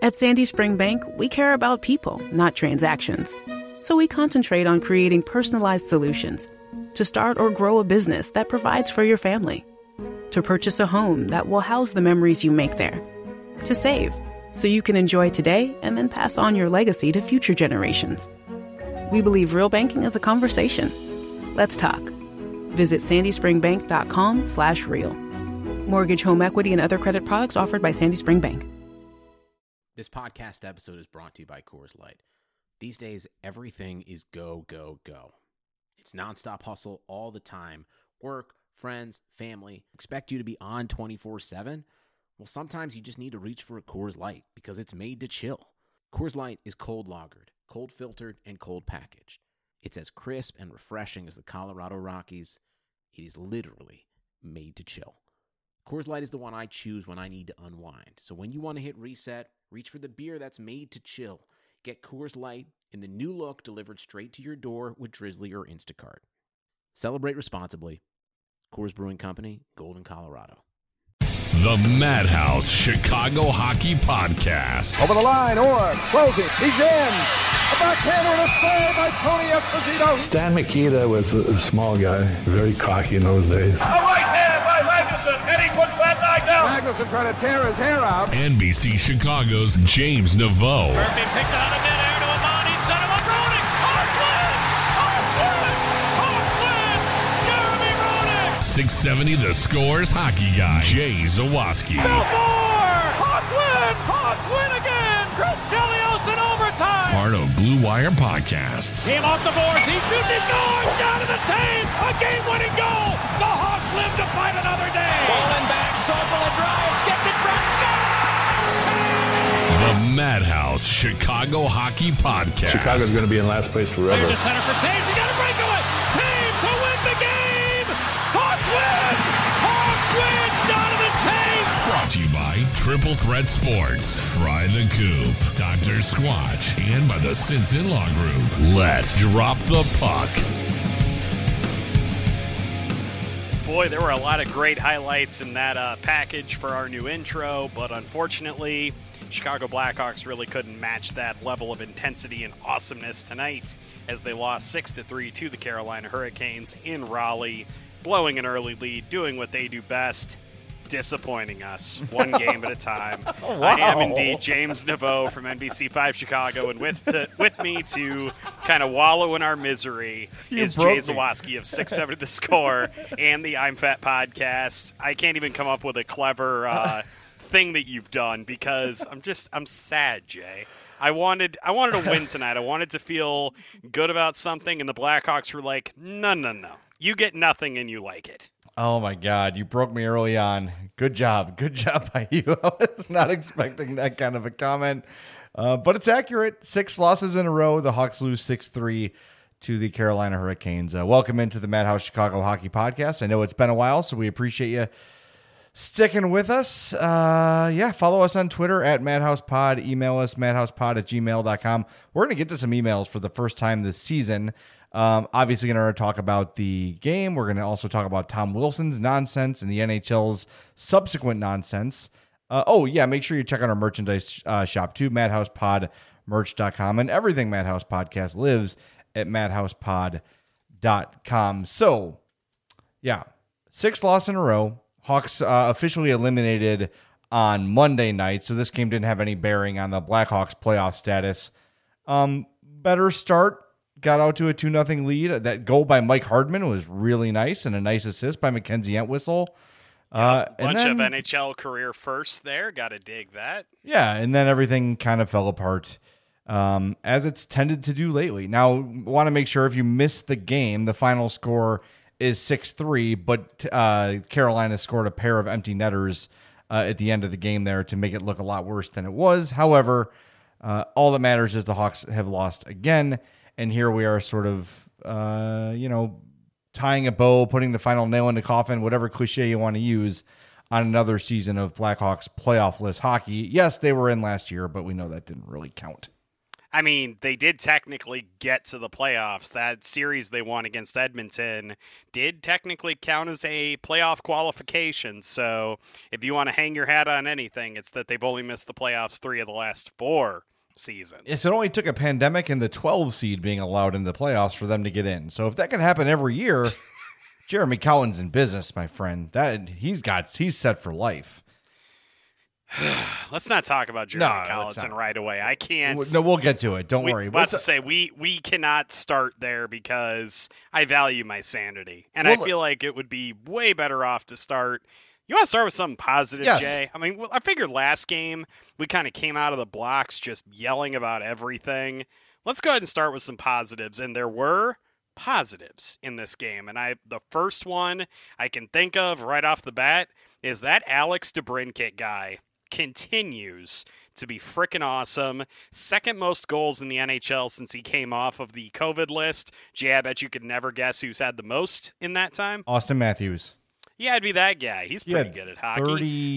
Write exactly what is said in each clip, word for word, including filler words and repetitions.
At Sandy Spring Bank, we care about people, not transactions. So we concentrate on creating personalized solutions to start or grow a business that provides for your family, to purchase a home that will house the memories you make there, to save so you can enjoy today and then pass on your legacy to future generations. We believe real banking is a conversation. Let's talk. Visit sandyspringbank.com slash real. Mortgage, home equity, and other credit products offered by Sandy Spring Bank. This podcast episode is brought to you by Coors Light. These days, everything is go, go, go. It's nonstop hustle all the time. Work, friends, family, expect you to be on twenty-four seven. Well, sometimes you just need to reach for a Coors Light because it's made to chill. Coors Light is cold lagered, cold filtered, and cold packaged. It's as crisp and refreshing as the Colorado Rockies. It is literally made to chill. Coors Light is the one I choose when I need to unwind. So when you want to hit reset, reach for the beer that's made to chill. Get Coors Light in the new look delivered straight to your door with Drizzly or Instacart. Celebrate responsibly. Coors Brewing Company, Golden, Colorado. The Madhouse Chicago Hockey Podcast. Over the line, Orr, closing, he's in. A backhander and a save by Tony Esposito. Stan Mikita was a, a small guy, very cocky in those days. A right hand by Magnuson, and he puts that guy down. Magnuson trying to tear his hair out. N B C Chicago's James Naveau. Murphy picked out of midair to Amani, set him up, Roenick. Hartland! Hartland! Hartland! Jeremy Roenick! six seventy The Scores hockey guy, Jay Zawaski. Belfort! Hartland! Hartland again! Chris Chelios in overtime! Part of Blue Wire Podcasts. Team off the boards, he shoots, he scores! Down to the Taves! A game-winning goal! The Hawks live to fight another day! Bowling back, Sobel and drives, skipped in front, score! The Madhouse Chicago Hockey Podcast. Chicago's going to be in last place forever. Clear to center for Taves, you got to break away! Taves to win the game! Hawks win! Hawks win! Jonathan Taves! Brought to you by Triple Threat Sports, Fry the Coop, Doctor Squatch, and by the Since In-Law Group. Let's drop the puck. Boy, there were a lot of great highlights in that uh, package for our new intro, but unfortunately, Chicago Blackhawks really couldn't match that level of intensity and awesomeness tonight as they lost six to three to the Carolina Hurricanes in Raleigh, blowing an early lead, doing what they do best, disappointing us one game at a time. Wow. I am indeed James Naveau from N B C five Chicago, and with to, with me to kind of wallow in our misery You is broke Jay me. Zawaski of six seventy The Score and the I'm Fat podcast. I can't even come up with a clever uh, thing that you've done because I'm just I'm sad, Jay. I wanted I wanted to win tonight. I wanted to feel good about something, and the Blackhawks were like, no, no, no. You get nothing and you like it. Oh, my God. You broke me early on. Good job. Good job by you. I was not expecting that kind of a comment, uh, but it's accurate. Six losses in a row. The Hawks lose six three to the Carolina Hurricanes. Uh, welcome into the Madhouse Chicago Hockey Podcast. I know it's been a while, so we appreciate you sticking with us. Uh, yeah, follow us on Twitter at MadhousePod. Email us, madhousepod at gmail dot com. We're going to get to some emails for the first time this season. Um, obviously going to talk about the game. We're going to also talk about Tom Wilson's nonsense and the N H L's subsequent nonsense. Uh, oh, yeah, make sure you check out our merchandise uh, shop too, madhouse pod merch dot com, and everything Madhouse Podcast lives at madhouse pod dot com. So, yeah, six losses in a row. Hawks uh, officially eliminated on Monday night, so this game didn't have any bearing on the Blackhawks playoff status. Um, better start. Got out to a two nothing lead. That goal by Mike Hardman was really nice, and a nice assist by Mackenzie Entwistle. Uh, A bunch and then, of N H L career firsts there. Got to dig that. Yeah, and then everything kind of fell apart, um, as it's tended to do lately. Now, want to make sure if you missed the game, the final score is six three, but uh, Carolina scored a pair of empty netters uh, at the end of the game there to make it look a lot worse than it was. However, uh, all that matters is the Hawks have lost again. And here we are sort of, uh, you know, tying a bow, putting the final nail in the coffin, whatever cliche you want to use, on another season of Blackhawks playoff list hockey. Yes, they were in last year, but we know that didn't really count. I mean, they did technically get to the playoffs. That series they won against Edmonton did technically count as a playoff qualification. So if you want to hang your hat on anything, it's that they've only missed the playoffs three of the last four seasons. Yes, it only took a pandemic and the twelve seed being allowed into the playoffs for them to get in. So if that can happen every year, Jeremy Cowan's in business, my friend. That he's got he's set for life. Let's not talk about Jeremy No, Collinson right away. I can't. No, we'll get to it. Don't we, worry. Let's just say we we cannot start there because I value my sanity, and well, I feel like it would be way better off to start. You want to start with something positive, yes. Jay? I mean, well, I figured last game we kind of came out of the blocks just yelling about everything. Let's go ahead and start with some positives, and there were positives in this game. And I, the first one I can think of right off the bat is that Alex DeBrincat guy continues to be freaking awesome. Second most goals in the N H L since he came off of the COVID list. Jay, I bet you could never guess who's had the most in that time. Austin Matthews. Yeah, it'd be that guy. He's pretty good at hockey.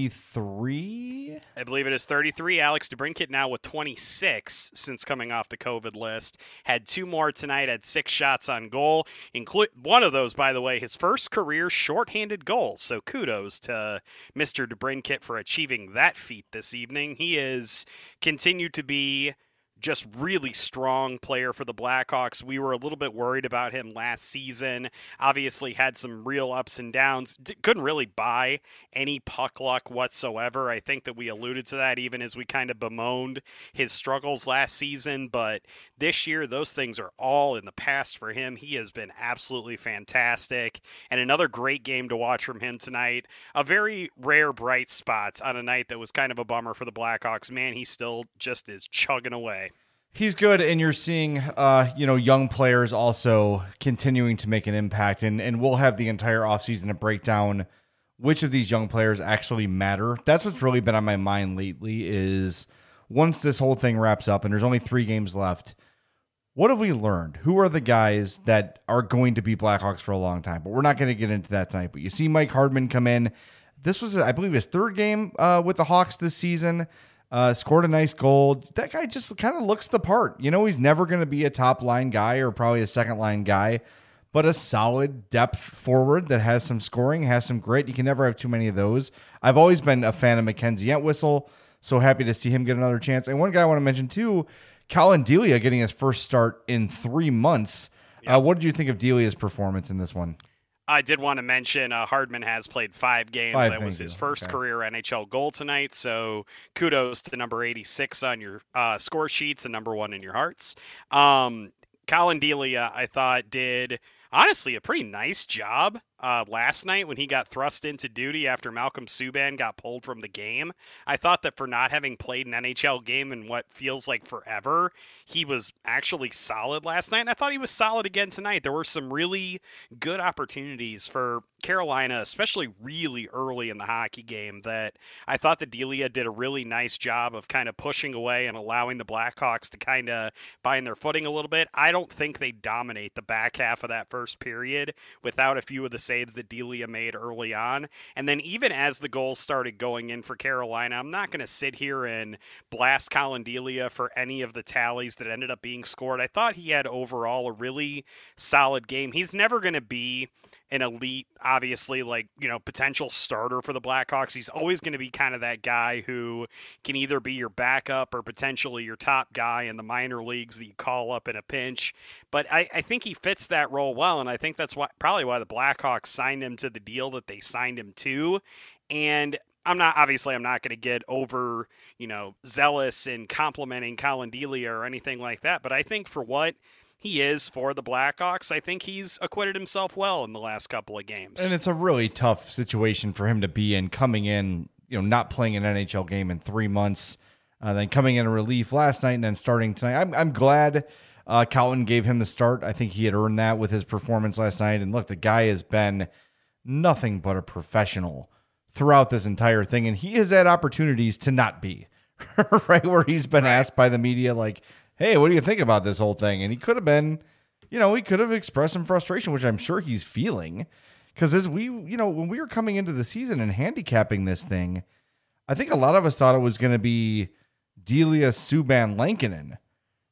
thirty-three? I believe it is thirty-three. Alex DeBrincat now with twenty-six since coming off the COVID list. Had two more tonight, had six shots on goal. Include one of those, by the way, his first career shorthanded goal. So kudos to Mister DeBrincat for achieving that feat this evening. He is continued to be just really strong player for the Blackhawks. We were a little bit worried about him last season. Obviously had some real ups and downs. D- couldn't really buy any puck luck whatsoever. I think that we alluded to that even as we kind of bemoaned his struggles last season. But this year, those things are all in the past for him. He has been absolutely fantastic. And another great game to watch from him tonight. A very rare bright spot on a night that was kind of a bummer for the Blackhawks. Man, he still just is chugging away. He's good, and you're seeing, uh, you know, young players also continuing to make an impact, and, and we'll have the entire offseason to break down which of these young players actually matter. That's what's really been on my mind lately is once this whole thing wraps up, and there's only three games left, what have we learned? Who are the guys that are going to be Blackhawks for a long time? But we're not going to get into that tonight. But you see Mike Hardman come in. This was, I believe, his third game uh, with the Hawks this season. Uh, scored a nice goal. That guy just kind of looks the part. You know, he's never going to be a top line guy or probably a second line guy, but a solid depth forward that has some scoring, has some grit. You can never have too many of those. I've always been a fan of Mackenzie Entwistle, so happy to see him get another chance. And one guy I want to mention too, Colin Delia getting his first start in three months. Yep. Uh, what did you think of Delia's performance in this one? I did want to mention uh, Hardman has played five games. Five, that was his you. first okay. career N H L goal tonight. So kudos to number eighty-six on your uh, score sheets and number one in your hearts. Um, Colin Delia, I thought, did honestly a pretty nice job uh, last night when he got thrust into duty after Malcolm Subban got pulled from the game. I thought that for not having played an N H L game in what feels like forever, he was actually solid last night, and I thought he was solid again tonight. There were some really good opportunities for Carolina, especially really early in the hockey game, that I thought that Delia did a really nice job of kind of pushing away and allowing the Blackhawks to kind of find their footing a little bit. I don't think they dominate the back half of that first period without a few of the saves that Delia made early on. And then even as the goals started going in for Carolina, I'm not going to sit here and blast Colin Delia for any of the tallies that ended up being scored. I thought he had overall a really solid game. He's never going to be an elite, obviously, like, you know, potential starter for the Blackhawks. He's always going to be kind of that guy who can either be your backup or potentially your top guy in the minor leagues that you call up in a pinch. But I, I think he fits that role well, and I think that's why, probably why the Blackhawks signed him to the deal that they signed him to. And I'm not, obviously, I'm not going to get over, you know, zealous in complimenting Colin Delia or anything like that, but I think for what he is for the Blackhawks, I think he's acquitted himself well in the last couple of games. And it's a really tough situation for him to be in, coming in, you know, not playing an N H L game in three months, uh, then coming in a relief last night and then starting tonight. I'm I'm glad uh, Colin gave him the start. I think he had earned that with his performance last night. And look, the guy has been nothing but a professional throughout this entire thing. And he has had opportunities to not be, right? Where he's been right. asked by the media, like, hey, what do you think about this whole thing? And he could have been, you know, he could have expressed some frustration, which I'm sure he's feeling. Because as we, you know, when we were coming into the season and handicapping this thing, I think a lot of us thought it was going to be Delia, Subban, Lankinen,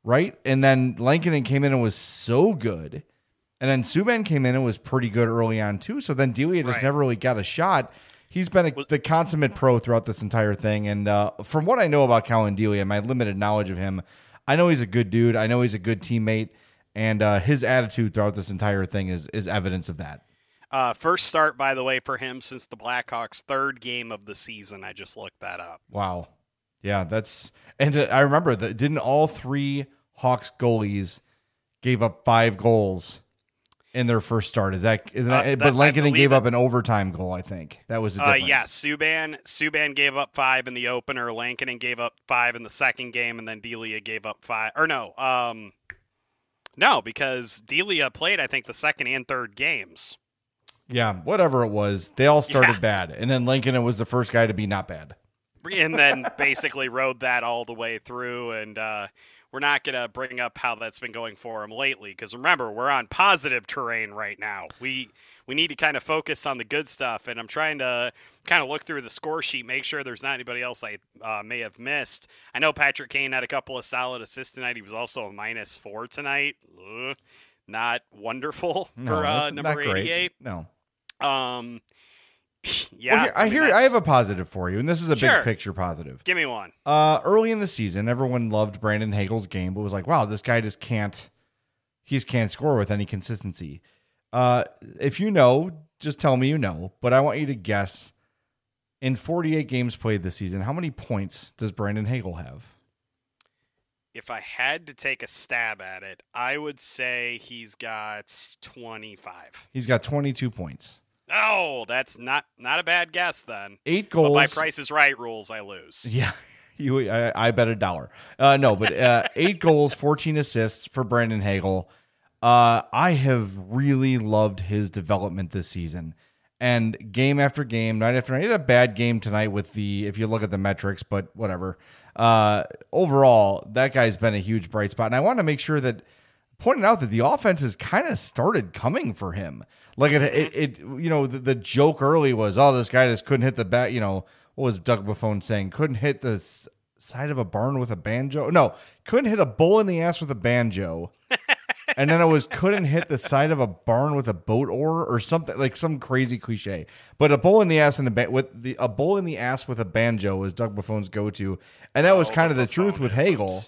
right? And then Lankinen came in and was so good. And then Subban came in and was pretty good early on too. So then Delia just Right. never really got a shot. He's been a, the consummate pro throughout this entire thing. And uh, from what I know about Colin Delia, my limited knowledge of him, I know he's a good dude. I know he's a good teammate. And uh, his attitude throughout this entire thing is is evidence of that. Uh, first start, by the way, for him since the Blackhawks' third game of the season. I just looked that up. Wow. Yeah, that's and uh, I remember that didn't all three Hawks goalies gave up five goals in their first start. Is that isn't Uh, that, that- but Lankinen gave that- up an overtime goal, I think. That was the Uh, difference. yeah, Subban Subban gave up five in the opener. Lankinen gave up five in the second game, and then Delia gave up five. Or no, um, no, because Delia played, I think, the second and third games. Yeah, whatever it was, they all started Yeah. bad. And then Lankinen was the first guy to be not bad. And then basically rode that all the way through. And uh, we're not going to bring up how that's been going for him lately, because remember, we're on positive terrain right now. We we need to kind of focus on the good stuff. And I'm trying to kind of look through the score sheet, make sure there's not anybody else I uh, may have missed. I know Patrick Kane had a couple of solid assists tonight. He was also a minus four tonight. Ugh, not wonderful No, for uh, that's number not great. eighty-eight. No. Um, yeah, Well, here, I mean, hear I that's- have a positive for you, and this is a Sure. big picture positive. Give me one. Uh, early in the season, everyone loved Brandon Hagel's game, but was like, wow, this guy just can't, he just can't score with any consistency. Uh, if you know, just tell me you know, but I want you to guess in forty-eight games played this season, how many points does Brandon Hagel have? If I had to take a stab at it, I would say he's got twenty-five. He's got twenty-two points. Oh, that's not not a bad guess then. Eight But goals. by Price is Right rules, I lose. Yeah, you. I, I bet a dollar. Uh, no, but uh, eight goals, fourteen assists for Brandon Hagel. Uh, I have really loved his development this season, and game after game, night after night. He had a bad game tonight with the, if you look at the metrics, but whatever. Uh, overall, that guy's been a huge bright spot, and I want to make sure that pointing out that the offense has kind of started coming for him. Like it, it, it you know, the, the joke early was, oh, this guy just couldn't hit the bat. You know, what was Doug Buffon saying? Couldn't hit the s- side of a barn with a banjo. No, couldn't hit a bull in the ass with a banjo. And then it was couldn't hit the side of a barn with a boat oar or something, like some crazy cliche. But a bull in the ass and a ba- with the a bull in the ass with a banjo was Doug Buffon's go-to, and that was Oh, kind of the the truth with Buffonisms. Hagel.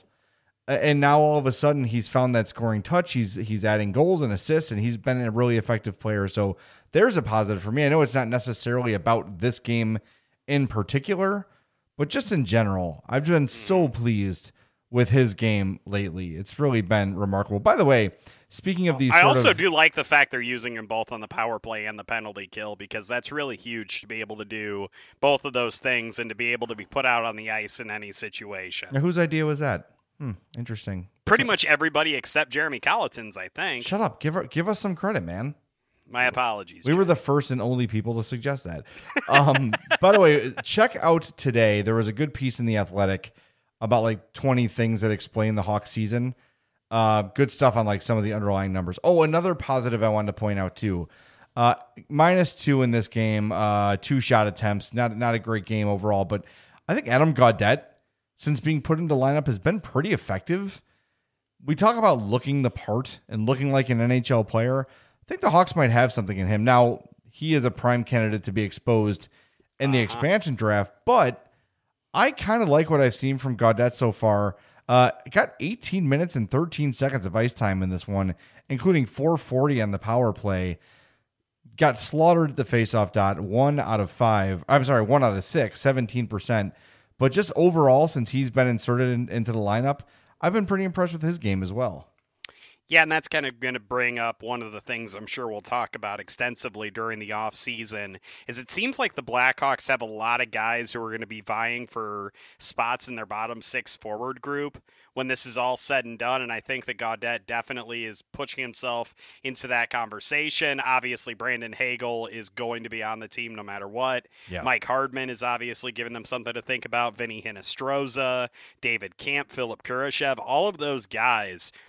And now all of a sudden he's found that scoring touch. He's he's adding goals and assists, and he's been a really effective player. So there's a positive for me. I know it's not necessarily about this game in particular, but just in general, I've been so pleased with his game lately. It's really been remarkable. By the way, speaking of these, I sort also of, do like the fact they're using him both on the power play and the penalty kill, because that's really huge to be able to do both of those things and to be able to be put out on the ice in any situation. Now, whose idea was that? Hmm, interesting. Pretty much everybody except Jeremy Colleton's, I think. Shut up. Give her, give us some credit, man. My apologies. We were the first and only people to suggest that. Um, by the way, check out today. There was a good piece in The Athletic about like twenty things that explain the Hawks season. Uh, good stuff on like some of the underlying numbers. Oh, another positive I wanted to point out too. Uh, minus two in this game, uh, two shot attempts. Not not a great game overall, but I think Adam Gaudette, since being put into lineup, has been pretty effective. We talk about looking the part and looking like an N H L player. I think the Hawks might have something in him. Now, he is a prime candidate to be exposed in the Uh-huh. expansion draft, but I kind of like what I've seen from Gaudette so far. Uh, got eighteen minutes and thirteen seconds of ice time in this one, including four forty on the power play. Got slaughtered at the faceoff dot, one out of five. I'm sorry, one out of six, seventeen percent. But just overall, since he's been inserted in, into the lineup, I've been pretty impressed with his game as well. Yeah, and that's kind of going to bring up one of the things I'm sure we'll talk about extensively during the offseason, is it seems like the Blackhawks have a lot of guys who are going to be vying for spots in their bottom six forward group when this is all said and done, and I think that Gaudette definitely is pushing himself into that conversation. Obviously, Brandon Hagel is going to be on the team no matter what. Yeah. Mike Hardman is obviously giving them something to think about. Vinny Hinostroza, David Camp, Philip Kurashev, all of those guys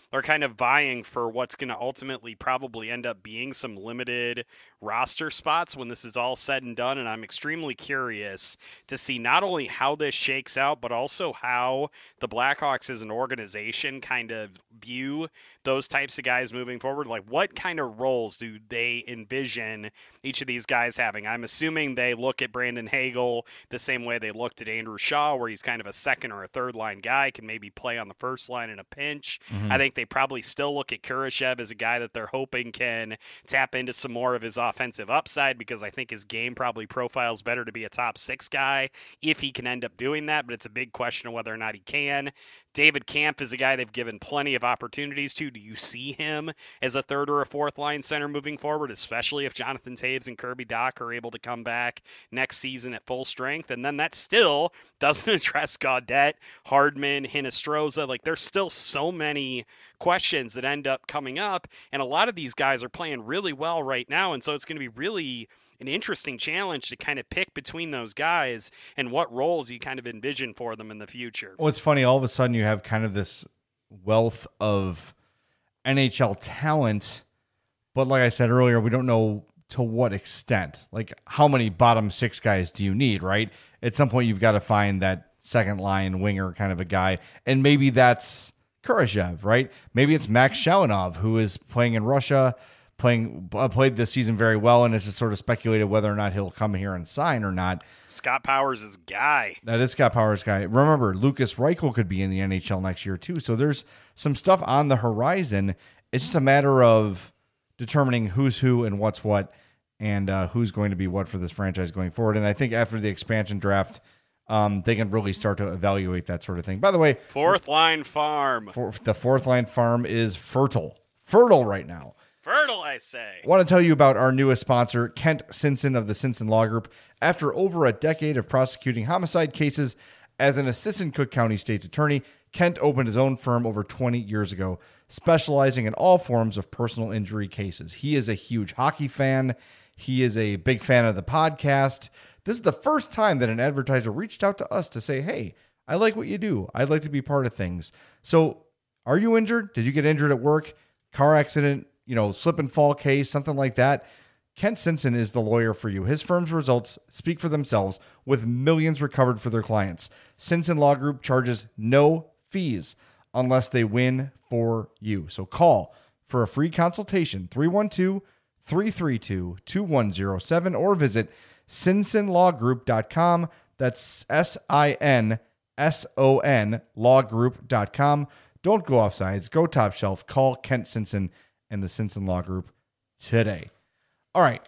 are kind of vying for what's going to ultimately probably end up being some limited roster spots when this is all said and done. And I'm extremely curious to see not only how this shakes out, but also how the Blackhawks as an organization kind of view those types of guys moving forward. Like, what kind of roles do they envision each of these guys having? I'm assuming they look at Brandon Hagel the same way they looked at Andrew Shaw, where he's kind of a second or a third line guy, can maybe play on the first line in a pinch. Mm-hmm. I think they probably still look at Kurashev as a guy that they're hoping can tap into some more of his offensive upside, because I think his game probably profiles better to be a top six guy if he can end up doing that, but it's a big question of whether or not he can. David Kampf is a guy they've given plenty of opportunities to. Do you see him as a third or a fourth line center moving forward, especially if Jonathan Toews and Kirby Dach are able to come back next season at full strength? And then that still doesn't address Gaudette, Hardman, Hinostroza. Like, there's still so many questions that end up coming up, and a lot of these guys are playing really well right now, and so it's going to be really an interesting challenge to kind of pick between those guys and what roles you kind of envision for them in the future. Well, it's funny. All of a sudden you have kind of this wealth of N H L talent, but like I said earlier, we don't know to what extent. Like, how many bottom six guys do you need, right? At some point you've got to find that second line winger kind of a guy, and maybe that's Kurashev, right? Maybe it's Max Shalinov, who is playing in Russia, playing uh, played this season very well, and it's just sort of speculated whether or not he'll come here and sign or not. Scott Powers is guy. That is Scott Powers' guy. Remember, Lucas Reichel could be in the N H L next year too. So there's some stuff on the horizon. It's just a matter of determining who's who and what's what, and uh, who's going to be what for this franchise going forward. And I think after the expansion draft, um, they can really start to evaluate that sort of thing. By the way, fourth line farm. For, the fourth line farm is fertile, fertile right now. Fertile, I say. I want to tell you about our newest sponsor, Kent Sinson of the Sinson Law Group. After over a decade of prosecuting homicide cases as an assistant Cook County State's attorney, Kent opened his own firm over twenty years ago, specializing in all forms of personal injury cases. He is a huge hockey fan. He is a big fan of the podcast. This is the first time that an advertiser reached out to us to say, hey, I like what you do. I'd like to be part of things. So are you injured? Did you get injured at work? Car accident? You know, slip and fall case, something like that? Kent Sinson is the lawyer for you. His firm's results speak for themselves, with millions recovered for their clients. Sinson Law Group charges no fees unless they win for you. So call for a free consultation, three one two, three three two, two one zero seven, or visit sinson law group dot com. That's S I N S O N law group dot com. Don't go off sides. Go top shelf. Call Kent Sinson and the Sinson Law Group today. All right.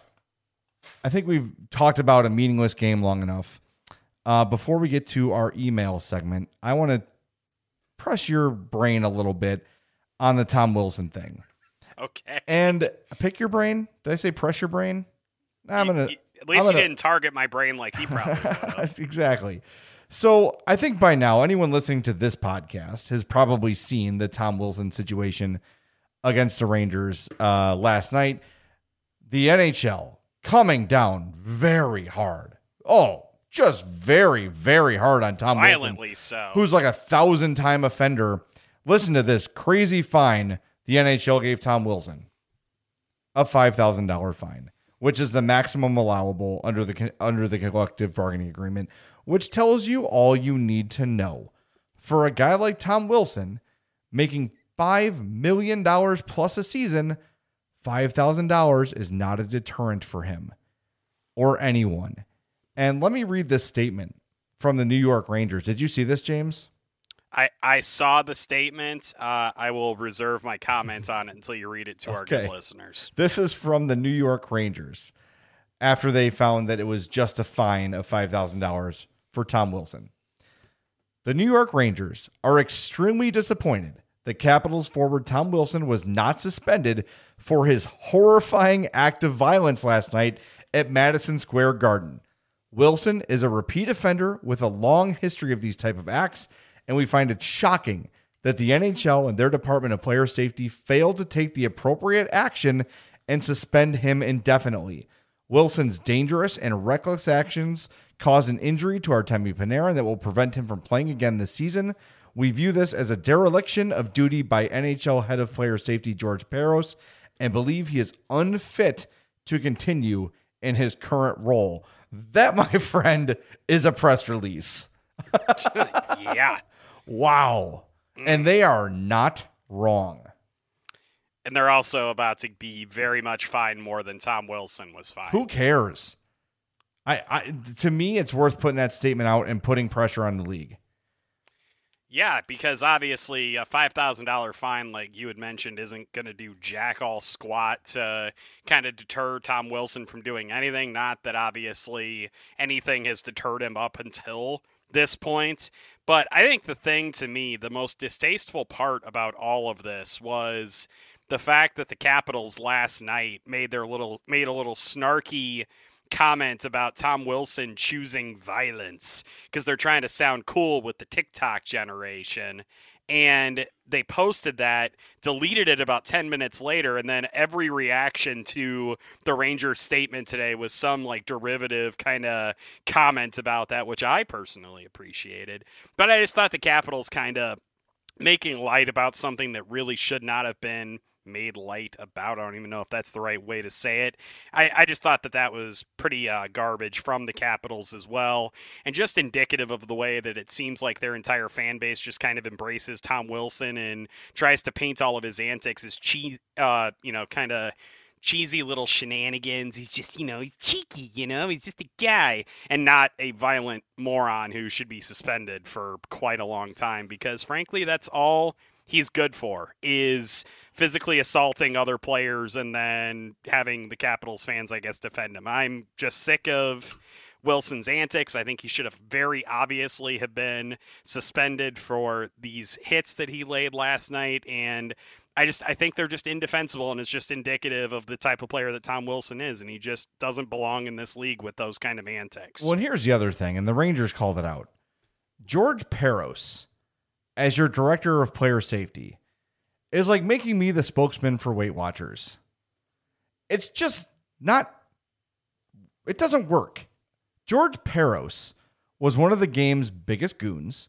I think we've talked about a meaningless game long enough. Uh, before we get to our email segment, I want to press your brain a little bit on the Tom Wilson thing. Okay. And pick your brain. Did I say press your brain? I'm you, gonna. You, at least gonna, you didn't target my brain like he probably would have. Exactly. So I think by now, anyone listening to this podcast has probably seen the Tom Wilson situation against the Rangers uh, last night. The N H L coming down very hard. Oh, just very, very hard on Tom Violently Wilson. so. Who's like a thousand-time offender. Listen to this crazy fine the N H L gave Tom Wilson. A five thousand dollars fine, which is the maximum allowable under the under the collective bargaining agreement, which tells you all you need to know. For a guy like Tom Wilson, making five million dollars plus a season, five thousand dollars is not a deterrent for him or anyone. And let me read this statement from the New York Rangers. Did you see this, James? I, I saw the statement. Uh, I will reserve my comments on it until you read it to our Okay. good listeners. This is from the New York Rangers after they found that it was just a fine of five thousand dollars for Tom Wilson. The New York Rangers are extremely disappointed that Capitals forward Tom Wilson was not suspended for his horrifying act of violence last night at Madison Square Garden. Wilson is a repeat offender with a long history of these type of acts, and we find it shocking that the N H L and their Department of Player Safety failed to take the appropriate action and suspend him indefinitely. Wilson's dangerous and reckless actions caused an injury to Artemi Panarin that will prevent him from playing again this season. We view this as a dereliction of duty by N H L head of player safety George Parros and believe he is unfit to continue in his current role. That, my friend, is a press release. Yeah. Wow. And they are not wrong. And they're also about to be very much fined more than Tom Wilson was fined. Who cares? I, I to me, it's worth putting that statement out and putting pressure on the league. Yeah, because obviously a five thousand dollars fine, like you had mentioned, isn't going to do jack all squat to kind of deter Tom Wilson from doing anything. Not that obviously anything has deterred him up until this point. But I think the thing to me, the most distasteful part about all of this was the fact that the Capitals last night made their little made a little snarky comment about Tom Wilson choosing violence because they're trying to sound cool with the TikTok generation. And they posted that, deleted it about ten minutes later, and then every reaction to the Rangers statement today was some like derivative kind of comment about that, which I personally appreciated. But I just thought the Capitals kind of making light about something that really should not have been made light about. I don't even know if that's the right way to say it. I, I just thought that that was pretty uh, garbage from the Capitals as well, and just indicative of the way that it seems like their entire fan base just kind of embraces Tom Wilson and tries to paint all of his antics as cheese, uh, you know, kind of cheesy little shenanigans. He's just, you know, he's cheeky, you know, he's just a guy and not a violent moron who should be suspended for quite a long time, because frankly, that's all he's good for, is physically assaulting other players and then having the Capitals fans, I guess, defend him. I'm just sick of Wilson's antics. I think he should have very obviously have been suspended for these hits that he laid last night. And I just, I think they're just indefensible, and it's just indicative of the type of player that Tom Wilson is. And he just doesn't belong in this league with those kind of antics. Well, and here's the other thing, and the Rangers called it out. George Parros, as your director of player safety, is like making me the spokesman for Weight Watchers. It's just not, it doesn't work. George Parros was one of the game's biggest goons.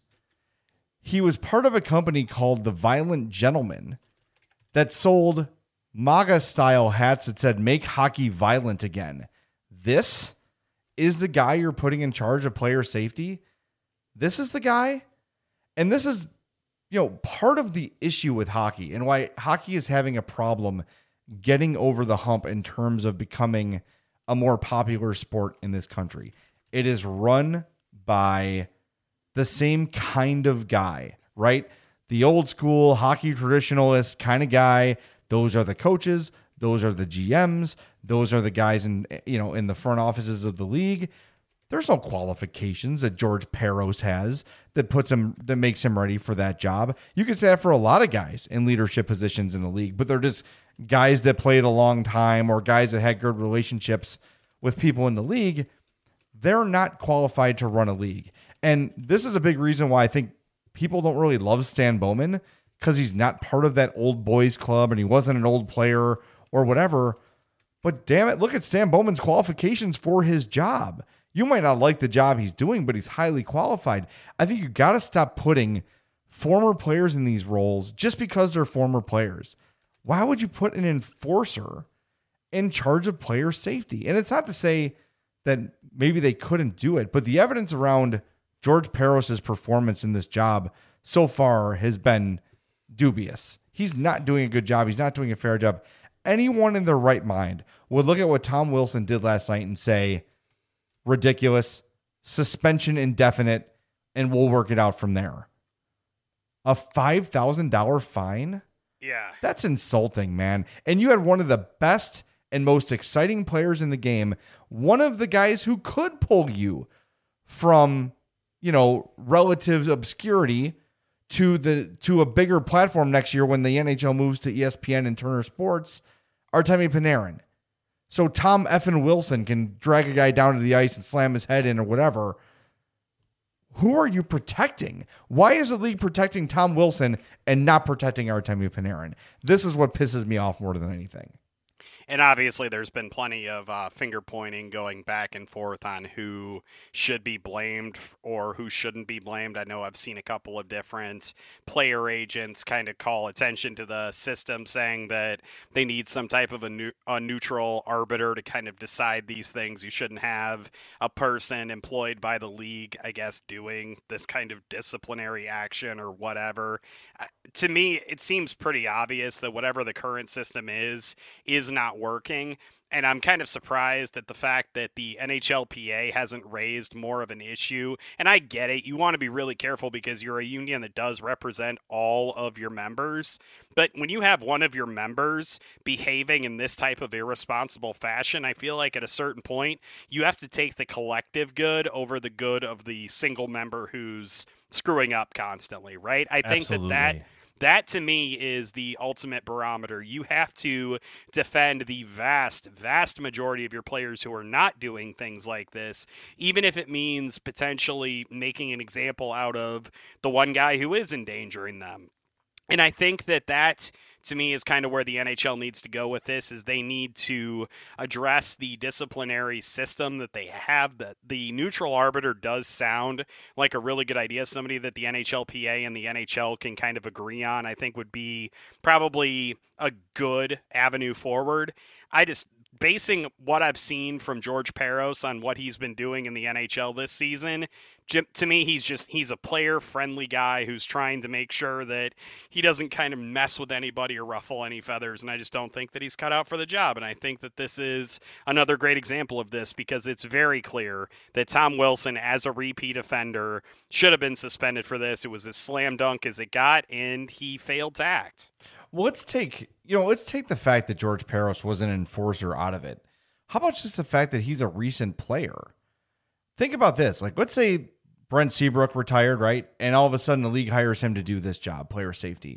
He was part of a company called The Violent Gentleman that sold MAGA-style hats that said, "Make hockey violent again." This is the guy you're putting in charge of player safety? This is the guy? And this is, you know, part of the issue with hockey and why hockey is having a problem getting over the hump in terms of becoming a more popular sport in this country. It is run by the same kind of guy, right? The old school hockey traditionalist kind of guy. Those are the coaches. Those are the G Ms. Those are the guys in, you know, in the front offices of the league. There's no qualifications that George Parros has that puts him, that makes him ready for that job. You could say that for a lot of guys in leadership positions in the league, but they're just guys that played a long time or guys that had good relationships with people in the league. They're not qualified to run a league. And this is a big reason why I think people don't really love Stan Bowman, because he's not part of that old boys club and he wasn't an old player or whatever. But damn it, look at Stan Bowman's qualifications for his job. You might not like the job he's doing, but he's highly qualified. I think you got to stop putting former players in these roles just because they're former players. Why would you put an enforcer in charge of player safety? And it's not to say that maybe they couldn't do it, but the evidence around George Parros' performance in this job so far has been dubious. He's not doing a good job. He's not doing a fair job. Anyone in their right mind would look at what Tom Wilson did last night and say, ridiculous, suspension indefinite, and we'll work it out from there. A five thousand dollars fine? Yeah. That's insulting, man. And you had one of the best and most exciting players in the game, one of the guys who could pull you from, you know, relative obscurity to the to a bigger platform next year when the N H L moves to E S P N and Turner Sports, Artemi Panarin. So Tom effing Wilson can drag a guy down to the ice and slam his head in or whatever. Who are you protecting? Why is the league protecting Tom Wilson and not protecting Artemi Panarin? This is what pisses me off more than anything. And obviously there's been plenty of uh, finger pointing going back and forth on who should be blamed or who shouldn't be blamed. I know I've seen a couple of different player agents kind of call attention to the system, saying that they need some type of a, new, a neutral arbiter to kind of decide these things. You shouldn't have a person employed by the league, I guess, doing this kind of disciplinary action or whatever. Uh, to me, it seems pretty obvious that whatever the current system is, is not working. And I'm kind of surprised at the fact that the N H L P A hasn't raised more of an issue. And I get it. You want to be really careful because you're a union that does represent all of your members. But when you have one of your members behaving in this type of irresponsible fashion, I feel like at a certain point, you have to take the collective good over the good of the single member who's screwing up constantly, right? I think Absolutely. that that... That, to me, is the ultimate barometer. You have to defend the vast, vast majority of your players who are not doing things like this, even if it means potentially making an example out of the one guy who is endangering them. And I think that that, to me, is kind of where the N H L needs to go with this, is they need to address the disciplinary system that they have. The, the neutral arbiter does sound like a really good idea, somebody that the N H L P A and the N H L can kind of agree on, I think would be probably a good avenue forward. I just... Basing what I've seen from George Parros on what he's been doing in the N H L this season, to me, he's just, he's a player-friendly guy who's trying to make sure that he doesn't kind of mess with anybody or ruffle any feathers, and I just don't think that he's cut out for the job. And I think that this is another great example of this, because it's very clear that Tom Wilson, as a repeat offender, should have been suspended for this. It was as slam dunk as it got, and he failed to act. Well, let's take, you know, let's take the fact that George Parros was an enforcer out of it. How about just the fact that he's a recent player? Think about this. Like, let's say Brent Seabrook retired, right? And all of a sudden the league hires him to do this job, player safety.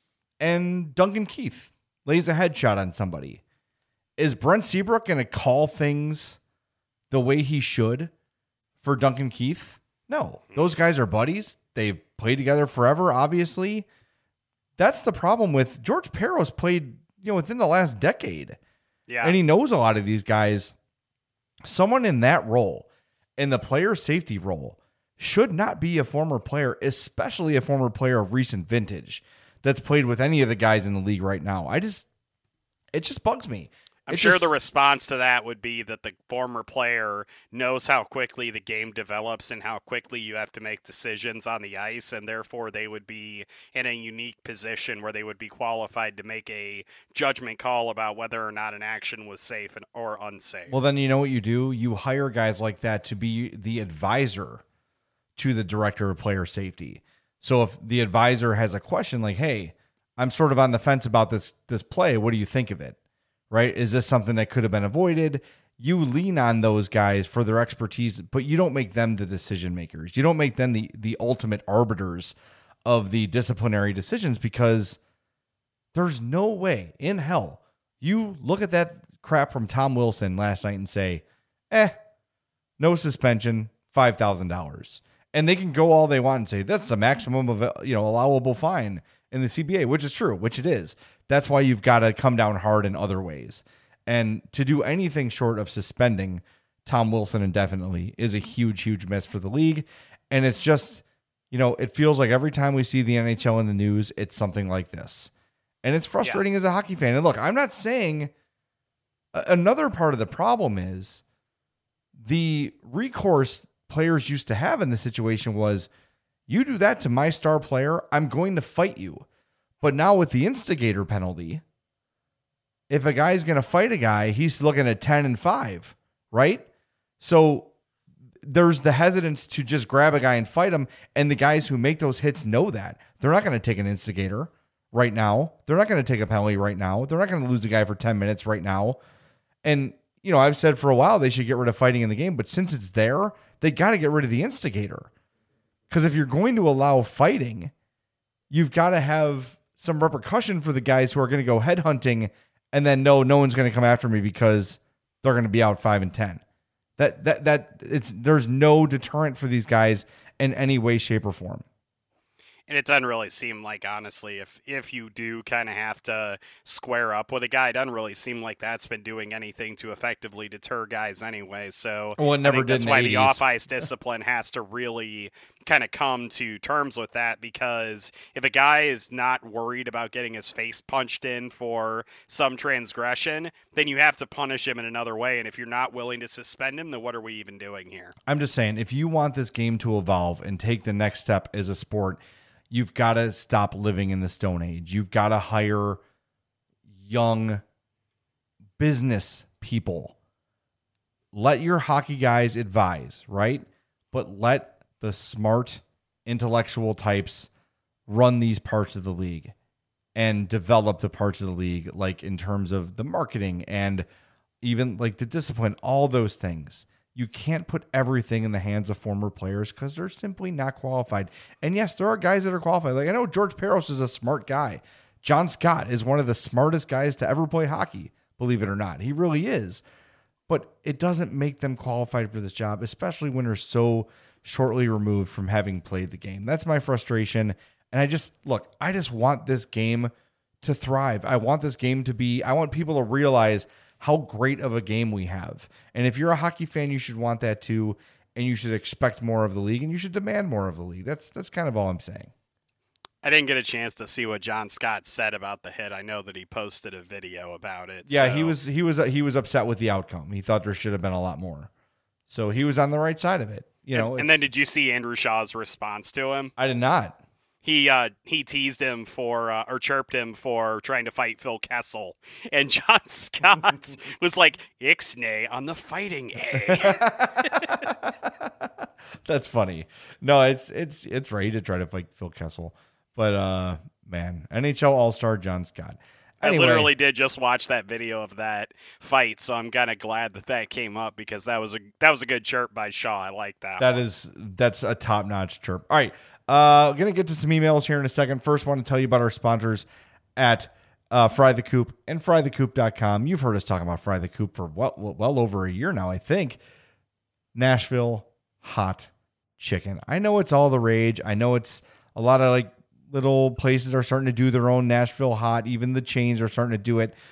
And Duncan Keith lays a headshot on somebody. Is Brent Seabrook going to call things the way he should for Duncan Keith? No. Those guys are buddies. They've played together forever, obviously. That's the problem with George Parros. Played, you know, within the last decade. Yeah. And he knows a lot of these guys. Someone in that role, in the player safety role, should not be a former player, especially a former player of recent vintage that's played with any of the guys in the league right now. I just, it just bugs me. I'm it sure just, the response to that would be that the former player knows how quickly the game develops and how quickly you have to make decisions on the ice, and therefore they would be in a unique position where they would be qualified to make a judgment call about whether or not an action was safe or unsafe. Well, then you know what you do? You hire guys like that to be the advisor to the director of player safety. So if the advisor has a question like, hey, I'm sort of on the fence about this this play, what do you think of it? Right? Is this something that could have been avoided? You lean on those guys for their expertise, but you don't make them the decision makers. You don't make them the, the ultimate arbiters of the disciplinary decisions, because there's no way in hell you look at that crap from Tom Wilson last night and say, eh, no suspension, five thousand dollars. And they can go all they want and say, that's the maximum of, you know, allowable fine in the C B A, which is true, which it is. That's why you've got to come down hard in other ways. And to do anything short of suspending Tom Wilson indefinitely is a huge, huge miss for the league. And it's just, you know, it feels like every time we see the N H L in the news, it's something like this. And it's frustrating yeah. as a hockey fan. And look, I'm not saying another part of the problem is the recourse players used to have in this situation was, you do that to my star player, I'm going to fight you. But now with the instigator penalty, if a guy's going to fight a guy, he's looking at ten and five, right? So there's the hesitance to just grab a guy and fight him. And the guys who make those hits know that. They're not going to take an instigator right now. They're not going to take a penalty right now. They're not going to lose a guy for ten minutes right now. And, you know, I've said for a while they should get rid of fighting in the game. But since it's there, they got to get rid of the instigator. Because if you're going to allow fighting, you've got to have some repercussion for the guys who are going to go headhunting and then no, no one's going to come after me because they're going to be out five and ten. That that that it's there's no deterrent for these guys in any way, shape, or form. And it doesn't really seem like, honestly, if if you do kind of have to square up with a guy, it doesn't really seem like that's been doing anything to effectively deter guys anyway. So well, it never I think did that's in why the the eighties. off-ice discipline has to really kind of come to terms with that, because if a guy is not worried about getting his face punched in for some transgression, then you have to punish him in another way. And if you're not willing to suspend him, then what are we even doing here? I'm just saying, if you want this game to evolve and take the next step as a sport, you've got to stop living in the Stone Age. You've got to hire young business people. Let your hockey guys advise, right? But let the smart, intellectual types run these parts of the league and develop the parts of the league, like in terms of the marketing and even like the discipline, all those things. You can't put everything in the hands of former players because they're simply not qualified. And yes, there are guys that are qualified. Like I know George Peros is a smart guy. John Scott is one of the smartest guys to ever play hockey, believe it or not. He really is. But it doesn't make them qualified for this job, especially when they're so shortly removed from having played the game. That's my frustration. And I just, look, I just want this game to thrive. I want this game to be, I want people to realize how great of a game we have. And if you're a hockey fan, you should want that too. And you should expect more of the league and you should demand more of the league. That's, that's kind of all I'm saying. I didn't get a chance to see what John Scott said about the hit. I know that he posted a video about it. Yeah, so. he was, he was, he was upset with the outcome. He thought there should have been a lot more. So he was on the right side of it. You know, and, and then did you see Andrew Shaw's response to him? I did not. He uh, he teased him for uh, or chirped him for trying to fight Phil Kessel, and John Scott was like, "Ixnay on the fighting A." That's funny. No, it's it's it's right to try to fight Phil Kessel, but uh, man, N H L All-Star John Scott. Anyway. I literally did just watch that video of that fight, so I'm kind of glad that that came up because that was a that was a good chirp by Shaw. I like that. That one. is that's a top-notch chirp. All right, uh, gonna get to some emails here in a second. First, want to tell you about our sponsors at uh, Fry the Coop and fry the coop dot com. You've heard us talking about Fry the Coop for well well over a year now, I think. Nashville hot chicken. I know it's all the rage. I know it's a lot of like. Little places are starting to do their own Nashville hot. Even the chains are starting to do it.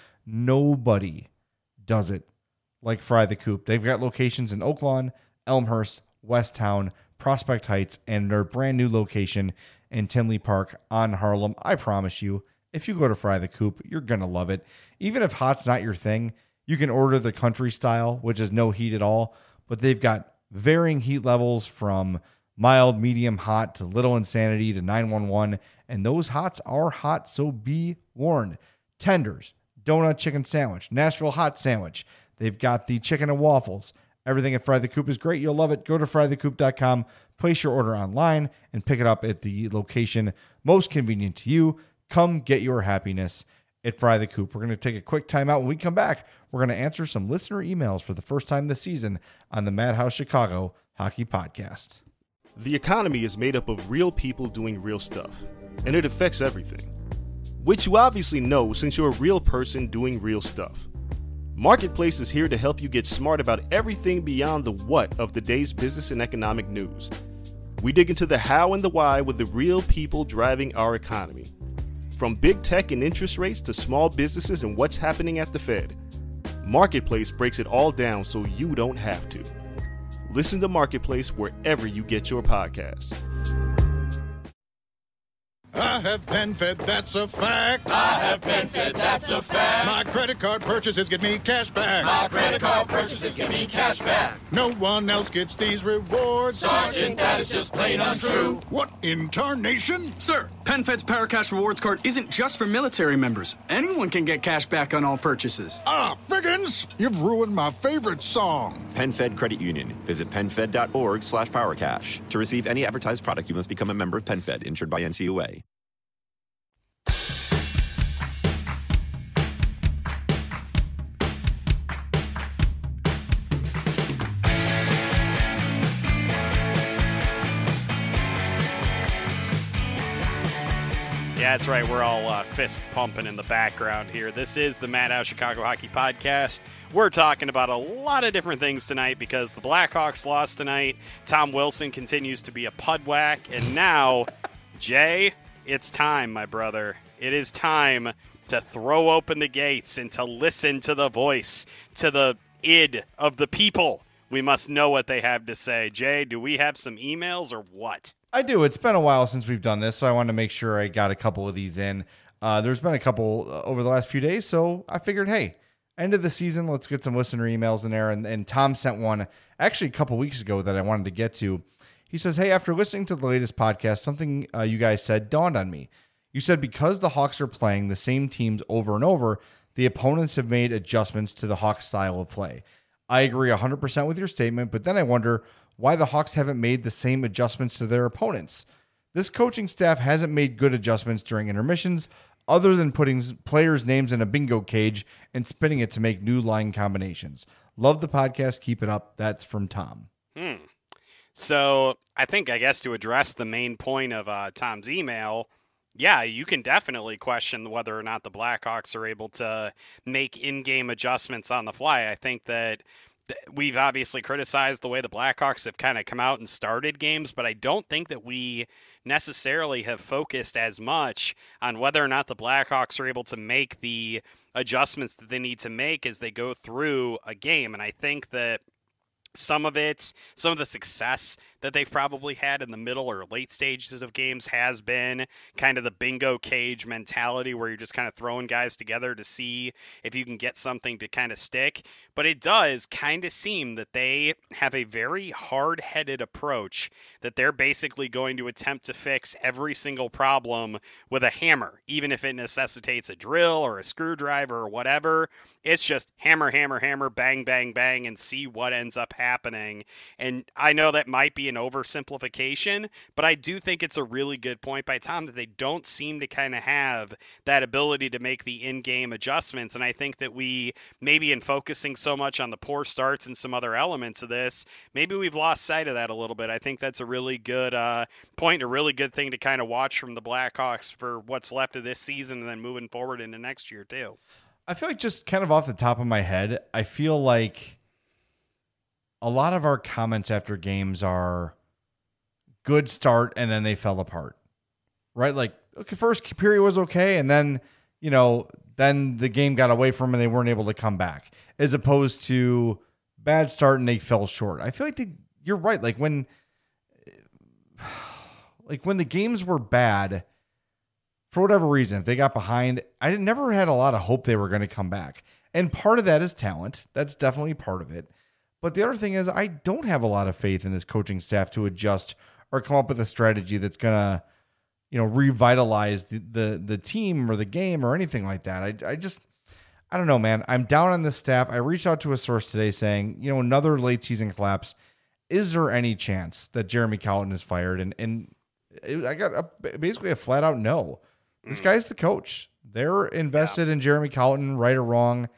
Nobody does it like Fry the Coop. They've got locations in Oak Lawn, Elmhurst, Westtown, Prospect Heights, and their brand new location in Tinley Park on Harlem. I promise you, if you go to Fry the Coop, you're going to love it. Even if hot's not your thing, you can order the country style, which is no heat at all. But they've got varying heat levels from mild, medium, hot to little insanity to nine one one. And those hots are hot, so be warned. Tenders, donut chicken sandwich, Nashville hot sandwich. They've got the chicken and waffles. Everything at Fry the Coop is great. You'll love it. Go to fry the coop dot com, place your order online, and pick it up at the location most convenient to you. Come get your happiness at Fry the Coop. We're going to take a quick time out. When we come back, we're going to answer some listener emails for the first time this season on the Madhouse Chicago Hockey Podcast. The economy is made up of real people doing real stuff, and it affects everything. Which you obviously know since you're a real person doing real stuff. Marketplace is here to help you get smart about everything beyond the what of the day's business and economic news. We dig into the how and the why with the real people driving our economy. From big tech and interest rates to small businesses and what's happening at the Fed. Marketplace breaks it all down so you don't have to. Listen to Marketplace wherever you get your podcasts. I have PenFed, that's a fact. I have PenFed, that's a fact. My credit card purchases get me cash back. My credit card purchases get me cash back. No one else gets these rewards. Sergeant, that is just plain untrue. What in tarnation? Sir, PenFed's Paracash Rewards card isn't just for military members. Anyone can get cash back on all purchases. Ah, Figgins, you've ruined my favorite song. PenFed Credit Union. Visit penfed.org slash powercash. To receive any advertised product, you must become a member of PenFed, insured by N C U A. Yeah, that's right. We're all uh, fist pumping in the background here. This is the Madhouse Chicago Hockey Podcast. We're talking about a lot of different things tonight because the Blackhawks lost tonight. Tom Wilson continues to be a pudwhack, and now Jay, it's time, my brother. It is time to throw open the gates and to listen to the voice, to the id of the people. We must know what they have to say. Jay, do we have some emails or what? I do. It's been a while since we've done this, so I wanted to make sure I got a couple of these in. Uh, there's been a couple uh, over the last few days, so I figured, hey, end of the season, let's get some listener emails in there. And, and Tom sent one actually a couple weeks ago that I wanted to get to. He says, hey, after listening to the latest podcast, something uh, you guys said dawned on me. You said because the Hawks are playing the same teams over and over, the opponents have made adjustments to the Hawks style of play. I agree one hundred percent with your statement, but then I wonder why the Hawks haven't made the same adjustments to their opponents. This coaching staff hasn't made good adjustments during intermissions other than putting players' names in a bingo cage and spinning it to make new line combinations. Love the podcast. Keep it up. That's from Tom. Hmm. So I think, I guess, to address the main point of uh, Tom's email, yeah, you can definitely question whether or not the Blackhawks are able to make in-game adjustments on the fly. I think that we've obviously criticized the way the Blackhawks have kind of come out and started games, but I don't think that we necessarily have focused as much on whether or not the Blackhawks are able to make the adjustments that they need to make as they go through a game. And I think that some of it, some of the success that they've probably had in the middle or late stages of games has been kind of the bingo cage mentality where you're just kind of throwing guys together to see if you can get something to kind of stick. But it does kind of seem that they have a very hard-headed approach that they're basically going to attempt to fix every single problem with a hammer, even if it necessitates a drill or a screwdriver or whatever. It's just hammer, hammer, hammer, bang, bang, bang, and see what ends up happening. And I know that might be an oversimplification, but I do think it's a really good point by Tom that they don't seem to kind of have that ability to make the in-game adjustments. And I think that we, maybe in focusing so much on the poor starts and some other elements of this, maybe we've lost sight of that a little bit. I think that's a really good uh, point, a really good thing to kind of watch from the Blackhawks for what's left of this season and then moving forward into next year too. I feel like just kind of off the top of my head, I feel like a lot of our comments after games are good start and then they fell apart, right? Like, okay, first period was okay. And then, you know, then the game got away from them and they weren't able to come back, as opposed to bad start and they fell short. I feel like they, you're right. Like when, like when the games were bad, for whatever reason, if they got behind, I never had a lot of hope they were going to come back. And part of that is talent. That's definitely part of it. But the other thing is I don't have a lot of faith in this coaching staff to adjust or come up with a strategy that's going to, you know, revitalize the, the, the team or the game or anything like that. I, I just, I don't know, man. I'm down on this staff. I reached out to a source today saying, you know, another late season collapse. Is there any chance that Jeremy Colliton is fired? And, and it, I got a, basically a flat out no. This guy's the coach. They're invested yeah. in Jeremy Colliton, right or wrong.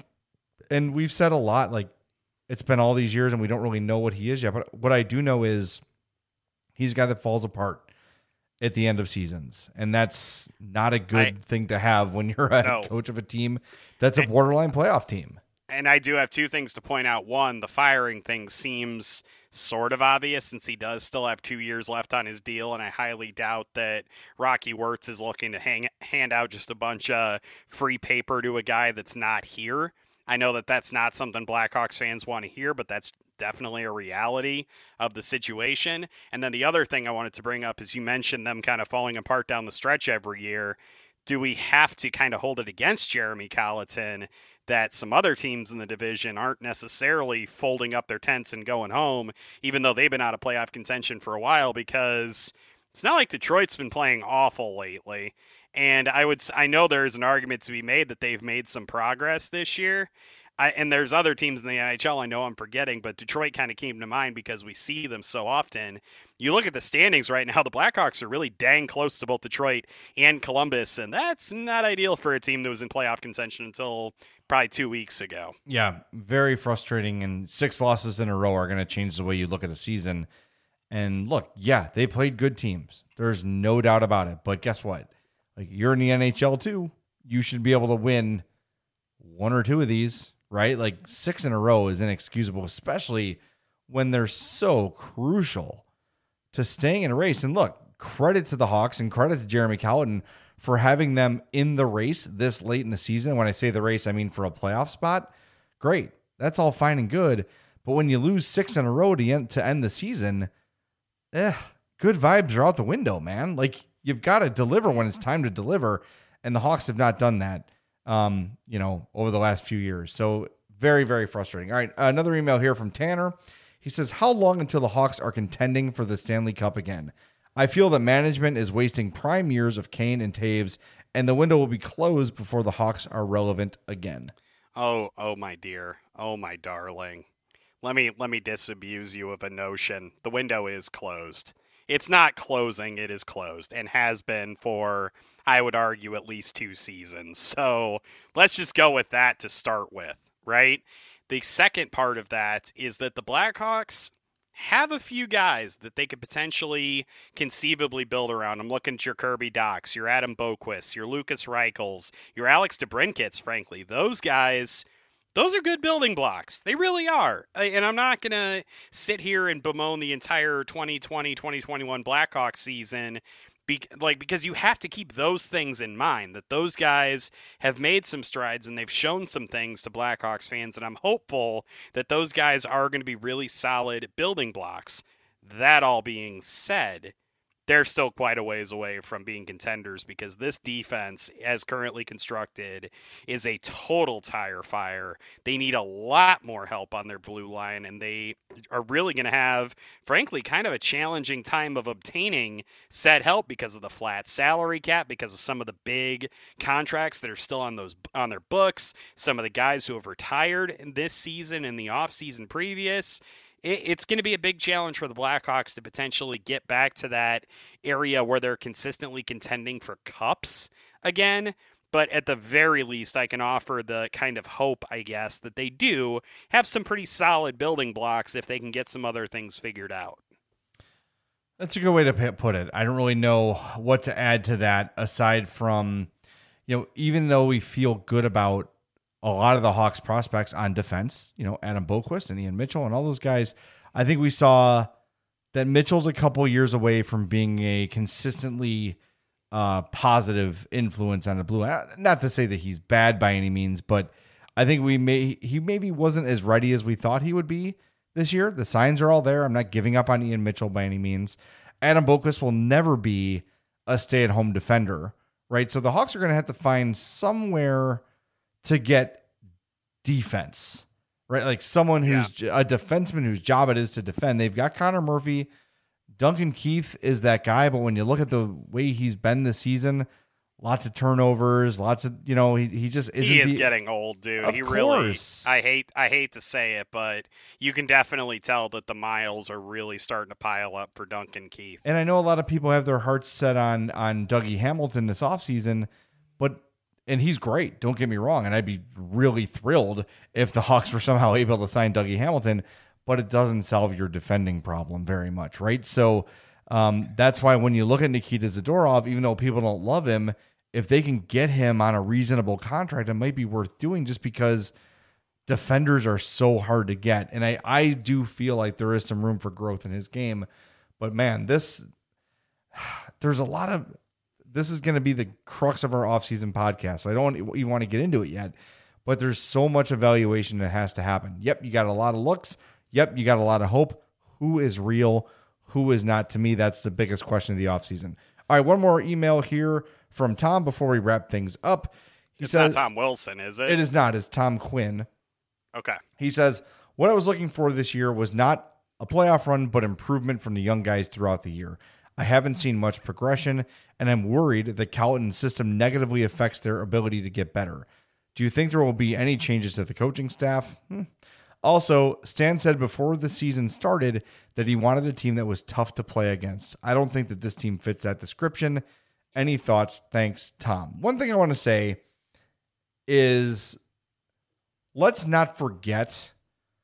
And we've said a lot, like, it's been all these years and we don't really know what he is yet. But what I do know is he's a guy that falls apart at the end of seasons. And that's not a good I, thing to have when you're a no. coach of a team that's a borderline playoff team. And I do have two things to point out. One, the firing thing seems sort of obvious since he does still have two years left on his deal, and I highly doubt that Rocky Wirtz is looking to hang, hand out just a bunch of free paper to a guy that's not here. I know that that's not something Blackhawks fans want to hear, but that's definitely a reality of the situation. And then the other thing I wanted to bring up is you mentioned them kind of falling apart down the stretch every year. Do we have to kind of hold it against Jeremy Colliton that some other teams in the division aren't necessarily folding up their tents and going home, even though they've been out of playoff contention for a while? Because it's not like Detroit's been playing awful lately. And I would, I know there's an argument to be made that they've made some progress this year. I, and there's other teams in the N H L I know I'm forgetting, but Detroit kind of came to mind because we see them so often. You look at the standings right now, the Blackhawks are really dang close to both Detroit and Columbus, and that's not ideal for a team that was in playoff contention until probably two weeks ago. Yeah, very frustrating, and six losses in a row are going to change the way you look at the season. And look, yeah, they played good teams. There's no doubt about it. But guess what? Like, you're in the N H L too. You should be able to win one or two of these, right? Like, six in a row is inexcusable, especially when they're so crucial to staying in a race. And look, credit to the Hawks and credit to Jeremy Colliton for having them in the race this late in the season. When I say the race, I mean for a playoff spot. Great. That's all fine and good. But when you lose six in a row to end, to end the season, eh, good vibes are out the window, man. Like, you've got to deliver when it's time to deliver. And the Hawks have not done that, um, you know, over the last few years. So very, very frustrating. All right. Another email here from Tanner. He says, how long until the Hawks are contending for the Stanley Cup again? I feel that management is wasting prime years of Kane and Taves, and the window will be closed before the Hawks are relevant again. Oh, oh, my dear. Oh, my darling. Let me let me disabuse you of a notion. The window is closed. It's not closing, it is closed, and has been for, I would argue, at least two seasons. So let's just go with that to start with, right? The second part of that is that the Blackhawks have a few guys that they could potentially conceivably build around. I'm looking at your Kirby Dachs, your Adam Boqvist, your Lucas Reichels, your Alex DeBrincats, frankly. Those guys, those are good building blocks. They really are. And I'm not going to sit here and bemoan the entire twenty twenty twenty twenty-one Blackhawks season Be- like because you have to keep those things in mind, that those guys have made some strides and they've shown some things to Blackhawks fans, and I'm hopeful that those guys are going to be really solid building blocks. That all being said, they're still quite a ways away from being contenders because this defense, as currently constructed, is a total tire fire. They need a lot more help on their blue line, and they are really going to have, frankly, kind of a challenging time of obtaining said help because of the flat salary cap, because of some of the big contracts that are still on those on their books, some of the guys who have retired in this season and the offseason previous. It's going to be a big challenge for the Blackhawks to potentially get back to that area where they're consistently contending for cups again. But at the very least, I can offer the kind of hope, I guess, that they do have some pretty solid building blocks if they can get some other things figured out. That's a good way to put it. I don't really know what to add to that aside from, you know, even though we feel good about a lot of the Hawks prospects on defense, you know, Adam Boqvist and Ian Mitchell and all those guys, I think we saw that Mitchell's a couple years away from being a consistently uh, positive influence on the blue. Not to say that he's bad by any means, but I think we may he maybe wasn't as ready as we thought he would be this year. The signs are all there. I'm not giving up on Ian Mitchell by any means. Adam Boqvist will never be a stay-at-home defender, right? So the Hawks are going to have to find somewhere to get defense, right? Like someone who's yeah. a defenseman whose job it is to defend. They've got Connor Murphy. Duncan Keith is that guy, but when you look at the way he's been this season, lots of turnovers, lots of, you know, he, he just isn't. He is the, getting old, dude. Of he course. really, I hate, I hate to say it, but you can definitely tell that the miles are really starting to pile up for Duncan Keith. And I know a lot of people have their hearts set on, on Dougie Hamilton this offseason, but and he's great, don't get me wrong, and I'd be really thrilled if the Hawks were somehow able to sign Dougie Hamilton, but it doesn't solve your defending problem very much, right? So um, that's why when you look at Nikita Zadorov, even though people don't love him, if they can get him on a reasonable contract, it might be worth doing just because defenders are so hard to get. And I, I do feel like there is some room for growth in his game, but man, this, there's a lot of, this is going to be the crux of our offseason podcast. So I don't even want to get into it yet, but there's so much evaluation that has to happen. Yep, you got a lot of looks. Yep, you got a lot of hope. Who is real? Who is not? To me, that's the biggest question of the offseason. All right, one more email here from Tom before we wrap things up. He it's says, not Tom Wilson, is it? It is not. It's Tom Quinn. Okay. He says, what I was looking for this year was not a playoff run, but improvement from the young guys throughout the year. I haven't seen much progression, and I'm worried that Colliton's system negatively affects their ability to get better. Do you think there will be any changes to the coaching staff? Hmm. Also, Stan said before the season started that he wanted a team that was tough to play against. I don't think that this team fits that description. Any thoughts? Thanks, Tom. One thing I want to say is let's not forget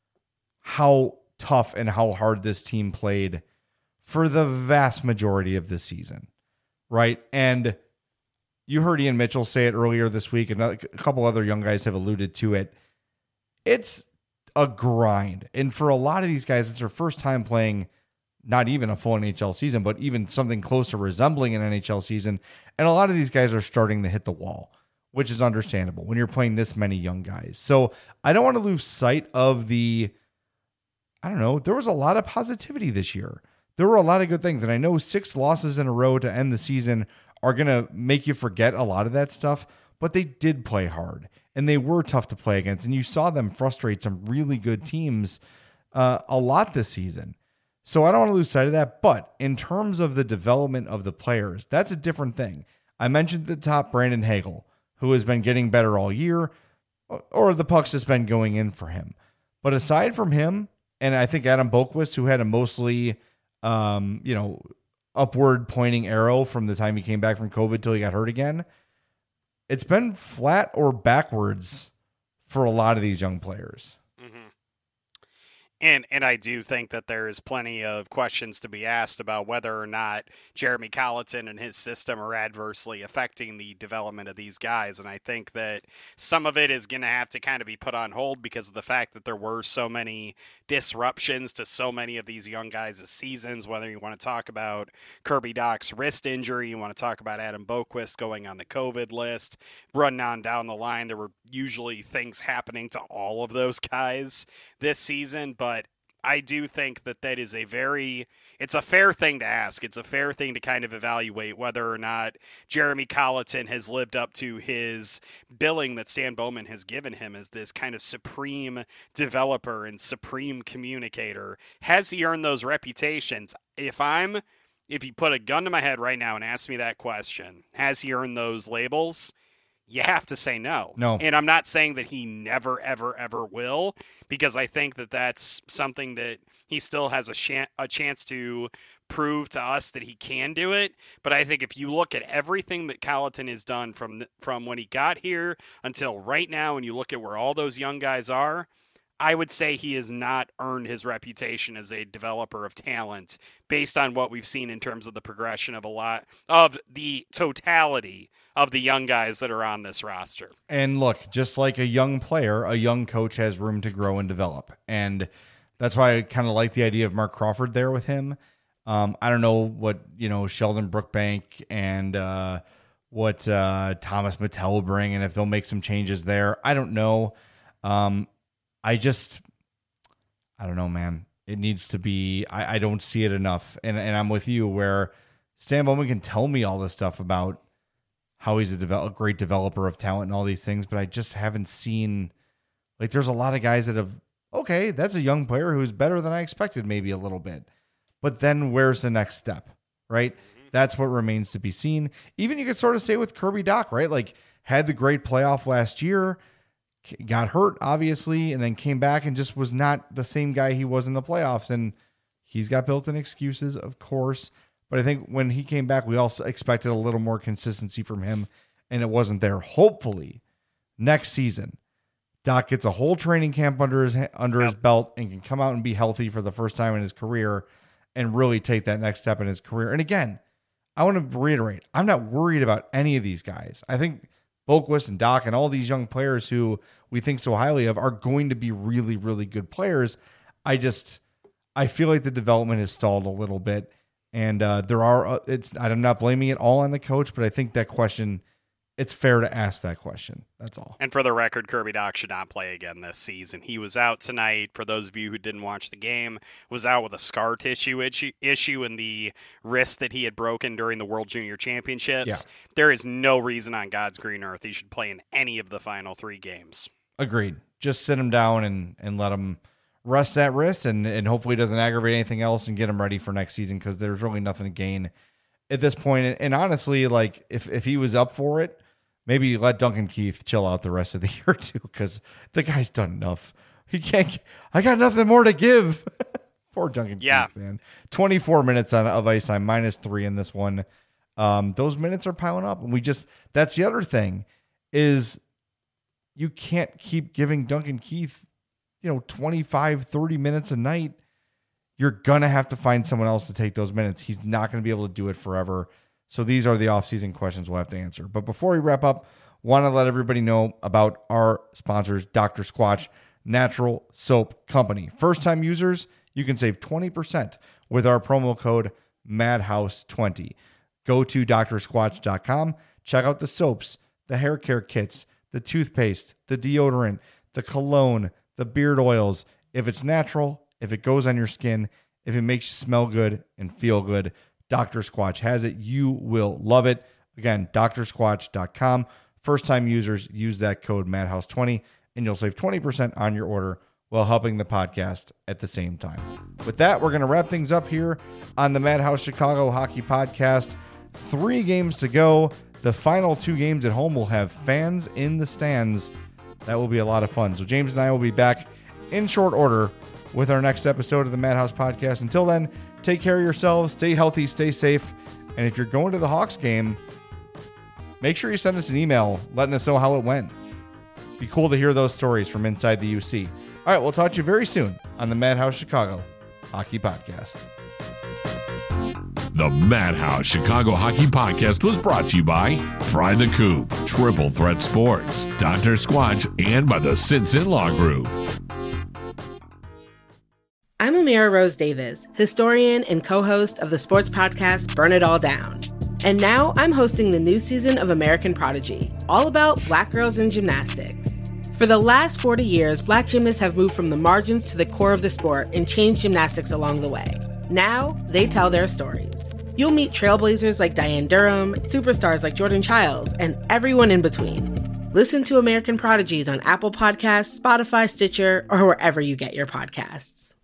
how tough and how hard this team played for the vast majority of this season, right? And you heard Ian Mitchell say it earlier this week, and a couple other young guys have alluded to it. It's a grind. And for a lot of these guys, it's their first time playing not even a full N H L season, but even something close to resembling an N H L season. And a lot of these guys are starting to hit the wall, which is understandable when you're playing this many young guys. So I don't want to lose sight of the, I don't know, there was a lot of positivity this year. There were a lot of good things. And I know six losses in a row to end the season are going to make you forget a lot of that stuff, but they did play hard and they were tough to play against. And you saw them frustrate some really good teams uh, a lot this season. So I don't want to lose sight of that. But in terms of the development of the players, that's a different thing. I mentioned at the top Brandon Hagel, who has been getting better all year, or the puck's just been going in for him. But aside from him, and I think Adam Boqvist, who had a mostly, um, you know, upward pointing arrow from the time he came back from COVID till he got hurt again, it's been flat or backwards for a lot of these young players. Mm-hmm. And and I do think that there is plenty of questions to be asked about whether or not Jeremy Colliton and his system are adversely affecting the development of these guys. And I think that some of it is going to have to kind of be put on hold because of the fact that there were so many disruptions to so many of these young guys' seasons, whether you want to talk about Kirby Dach's wrist injury, you want to talk about Adam Boqvist going on the COVID list, running on down the line. There were usually things happening to all of those guys this season, but I do think that that is a very, it's a fair thing to ask. It's a fair thing to kind of evaluate whether or not Jeremy Colliton has lived up to his billing that Stan Bowman has given him as this kind of supreme developer and supreme communicator. Has he earned those reputations? If I'm, if you put a gun to my head right now and ask me that question, has he earned those labels? You have to say no. No. And I'm not saying that he never, ever, ever will, because I think that that's something that he still has a, sh- a chance to prove to us that he can do it. But I think if you look at everything that Colliton has done from the, from when he got here until right now, and you look at where all those young guys are, I would say he has not earned his reputation as a developer of talent based on what we've seen in terms of the progression of a lot of the totality of the young guys that are on this roster. And look, just like a young player, a young coach has room to grow and develop. And that's why I kind of like the idea of Mark Crawford there with him. Um, I don't know what, you know, Sheldon Brookbank and uh, what uh, Thomas Mattel will bring and if they'll make some changes there. I don't know. Um, I just, I don't know, man. It needs to be, I, I don't see it enough. And, and I'm with you where Stan Bowman can tell me all this stuff about how he's a, develop, a great developer of talent and all these things, but I just haven't seen, like, there's a lot of guys that have, okay, that's a young player who's better than I expected maybe a little bit. But then where's the next step, right? Mm-hmm. That's what remains to be seen. Even you could sort of say with Kirby Dach, right? Like, had the great playoff last year, got hurt, obviously, and then came back and just was not the same guy he was in the playoffs. And he's got built-in excuses, of course. But I think when he came back, we also expected a little more consistency from him, and it wasn't there. Hopefully, next season, Dach gets a whole training camp under his under his belt and can come out and be healthy for the first time in his career and really take that next step in his career. And again, I want to reiterate, I'm not worried about any of these guys. I think Boqvist and Dach and all these young players who we think so highly of are going to be really, really good players. I just, I feel like the development has stalled a little bit. And uh, there are, uh, it's, I'm not blaming it all on the coach, but I think that question, it's fair to ask that question. That's all. And for the record, Kirby Dach should not play again this season. He was out tonight, for those of you who didn't watch the game, was out with a scar tissue issue, issue in the wrist that he had broken during the World Junior Championships. Yeah. There is no reason on God's green earth he should play in any of the final three games. Agreed. Just sit him down and, and let him rest that wrist and, and hopefully it doesn't aggravate anything else and get him ready for next season because there's really nothing to gain at this point. And, and honestly, like if, if he was up for it, maybe let Duncan Keith chill out the rest of the year too, because the guy's done enough. He can't. I got nothing more to give. Poor Duncan yeah. Keith, man. twenty-four minutes on, of ice time, minus three in this one. Um, those minutes are piling up, and we just. That's the other thing, is you can't keep giving Duncan Keith, you know, twenty-five, thirty minutes a night. You're gonna have to find someone else to take those minutes. He's not gonna be able to do it forever. So these are the offseason questions we'll have to answer. But before we wrap up, want to let everybody know about our sponsors, Doctor Squatch Natural Soap Company. First-time users, you can save twenty percent with our promo code Madhouse twenty. Go to doctor squatch dot com, check out the soaps, the hair care kits, the toothpaste, the deodorant, the cologne, the beard oils. If it's natural, if it goes on your skin, if it makes you smell good and feel good, Doctor Squatch has it. You will love it. Again, doctor squatch dot com. First-time users use that code Madhouse twenty, and you'll save twenty percent on your order while helping the podcast at the same time. With that, we're going to wrap things up here on the Madhouse Chicago Hockey Podcast. Three games to go. The final two games at home will have fans in the stands. That will be a lot of fun. So James and I will be back in short order with our next episode of the Madhouse Podcast. Until then, take care of yourselves, stay healthy, stay safe, and if you're going to the Hawks game, make sure you send us an email letting us know how it went. Be cool to hear those stories from inside the U C. All right, we'll talk to you very soon on the Madhouse Chicago Hockey Podcast. The Madhouse Chicago Hockey Podcast was brought to you by Fry the Coop, Triple Threat Sports, Doctor Squatch, and by the Sinson Law Group. I'm Amira Rose Davis, historian and co-host of the sports podcast Burn It All Down. And now I'm hosting the new season of American Prodigy, all about Black girls in gymnastics. For the last forty years, Black gymnasts have moved from the margins to the core of the sport and changed gymnastics along the way. Now, they tell their stories. You'll meet trailblazers like Diane Durham, superstars like Jordan Childs, and everyone in between. Listen to American Prodigies on Apple Podcasts, Spotify, Stitcher, or wherever you get your podcasts.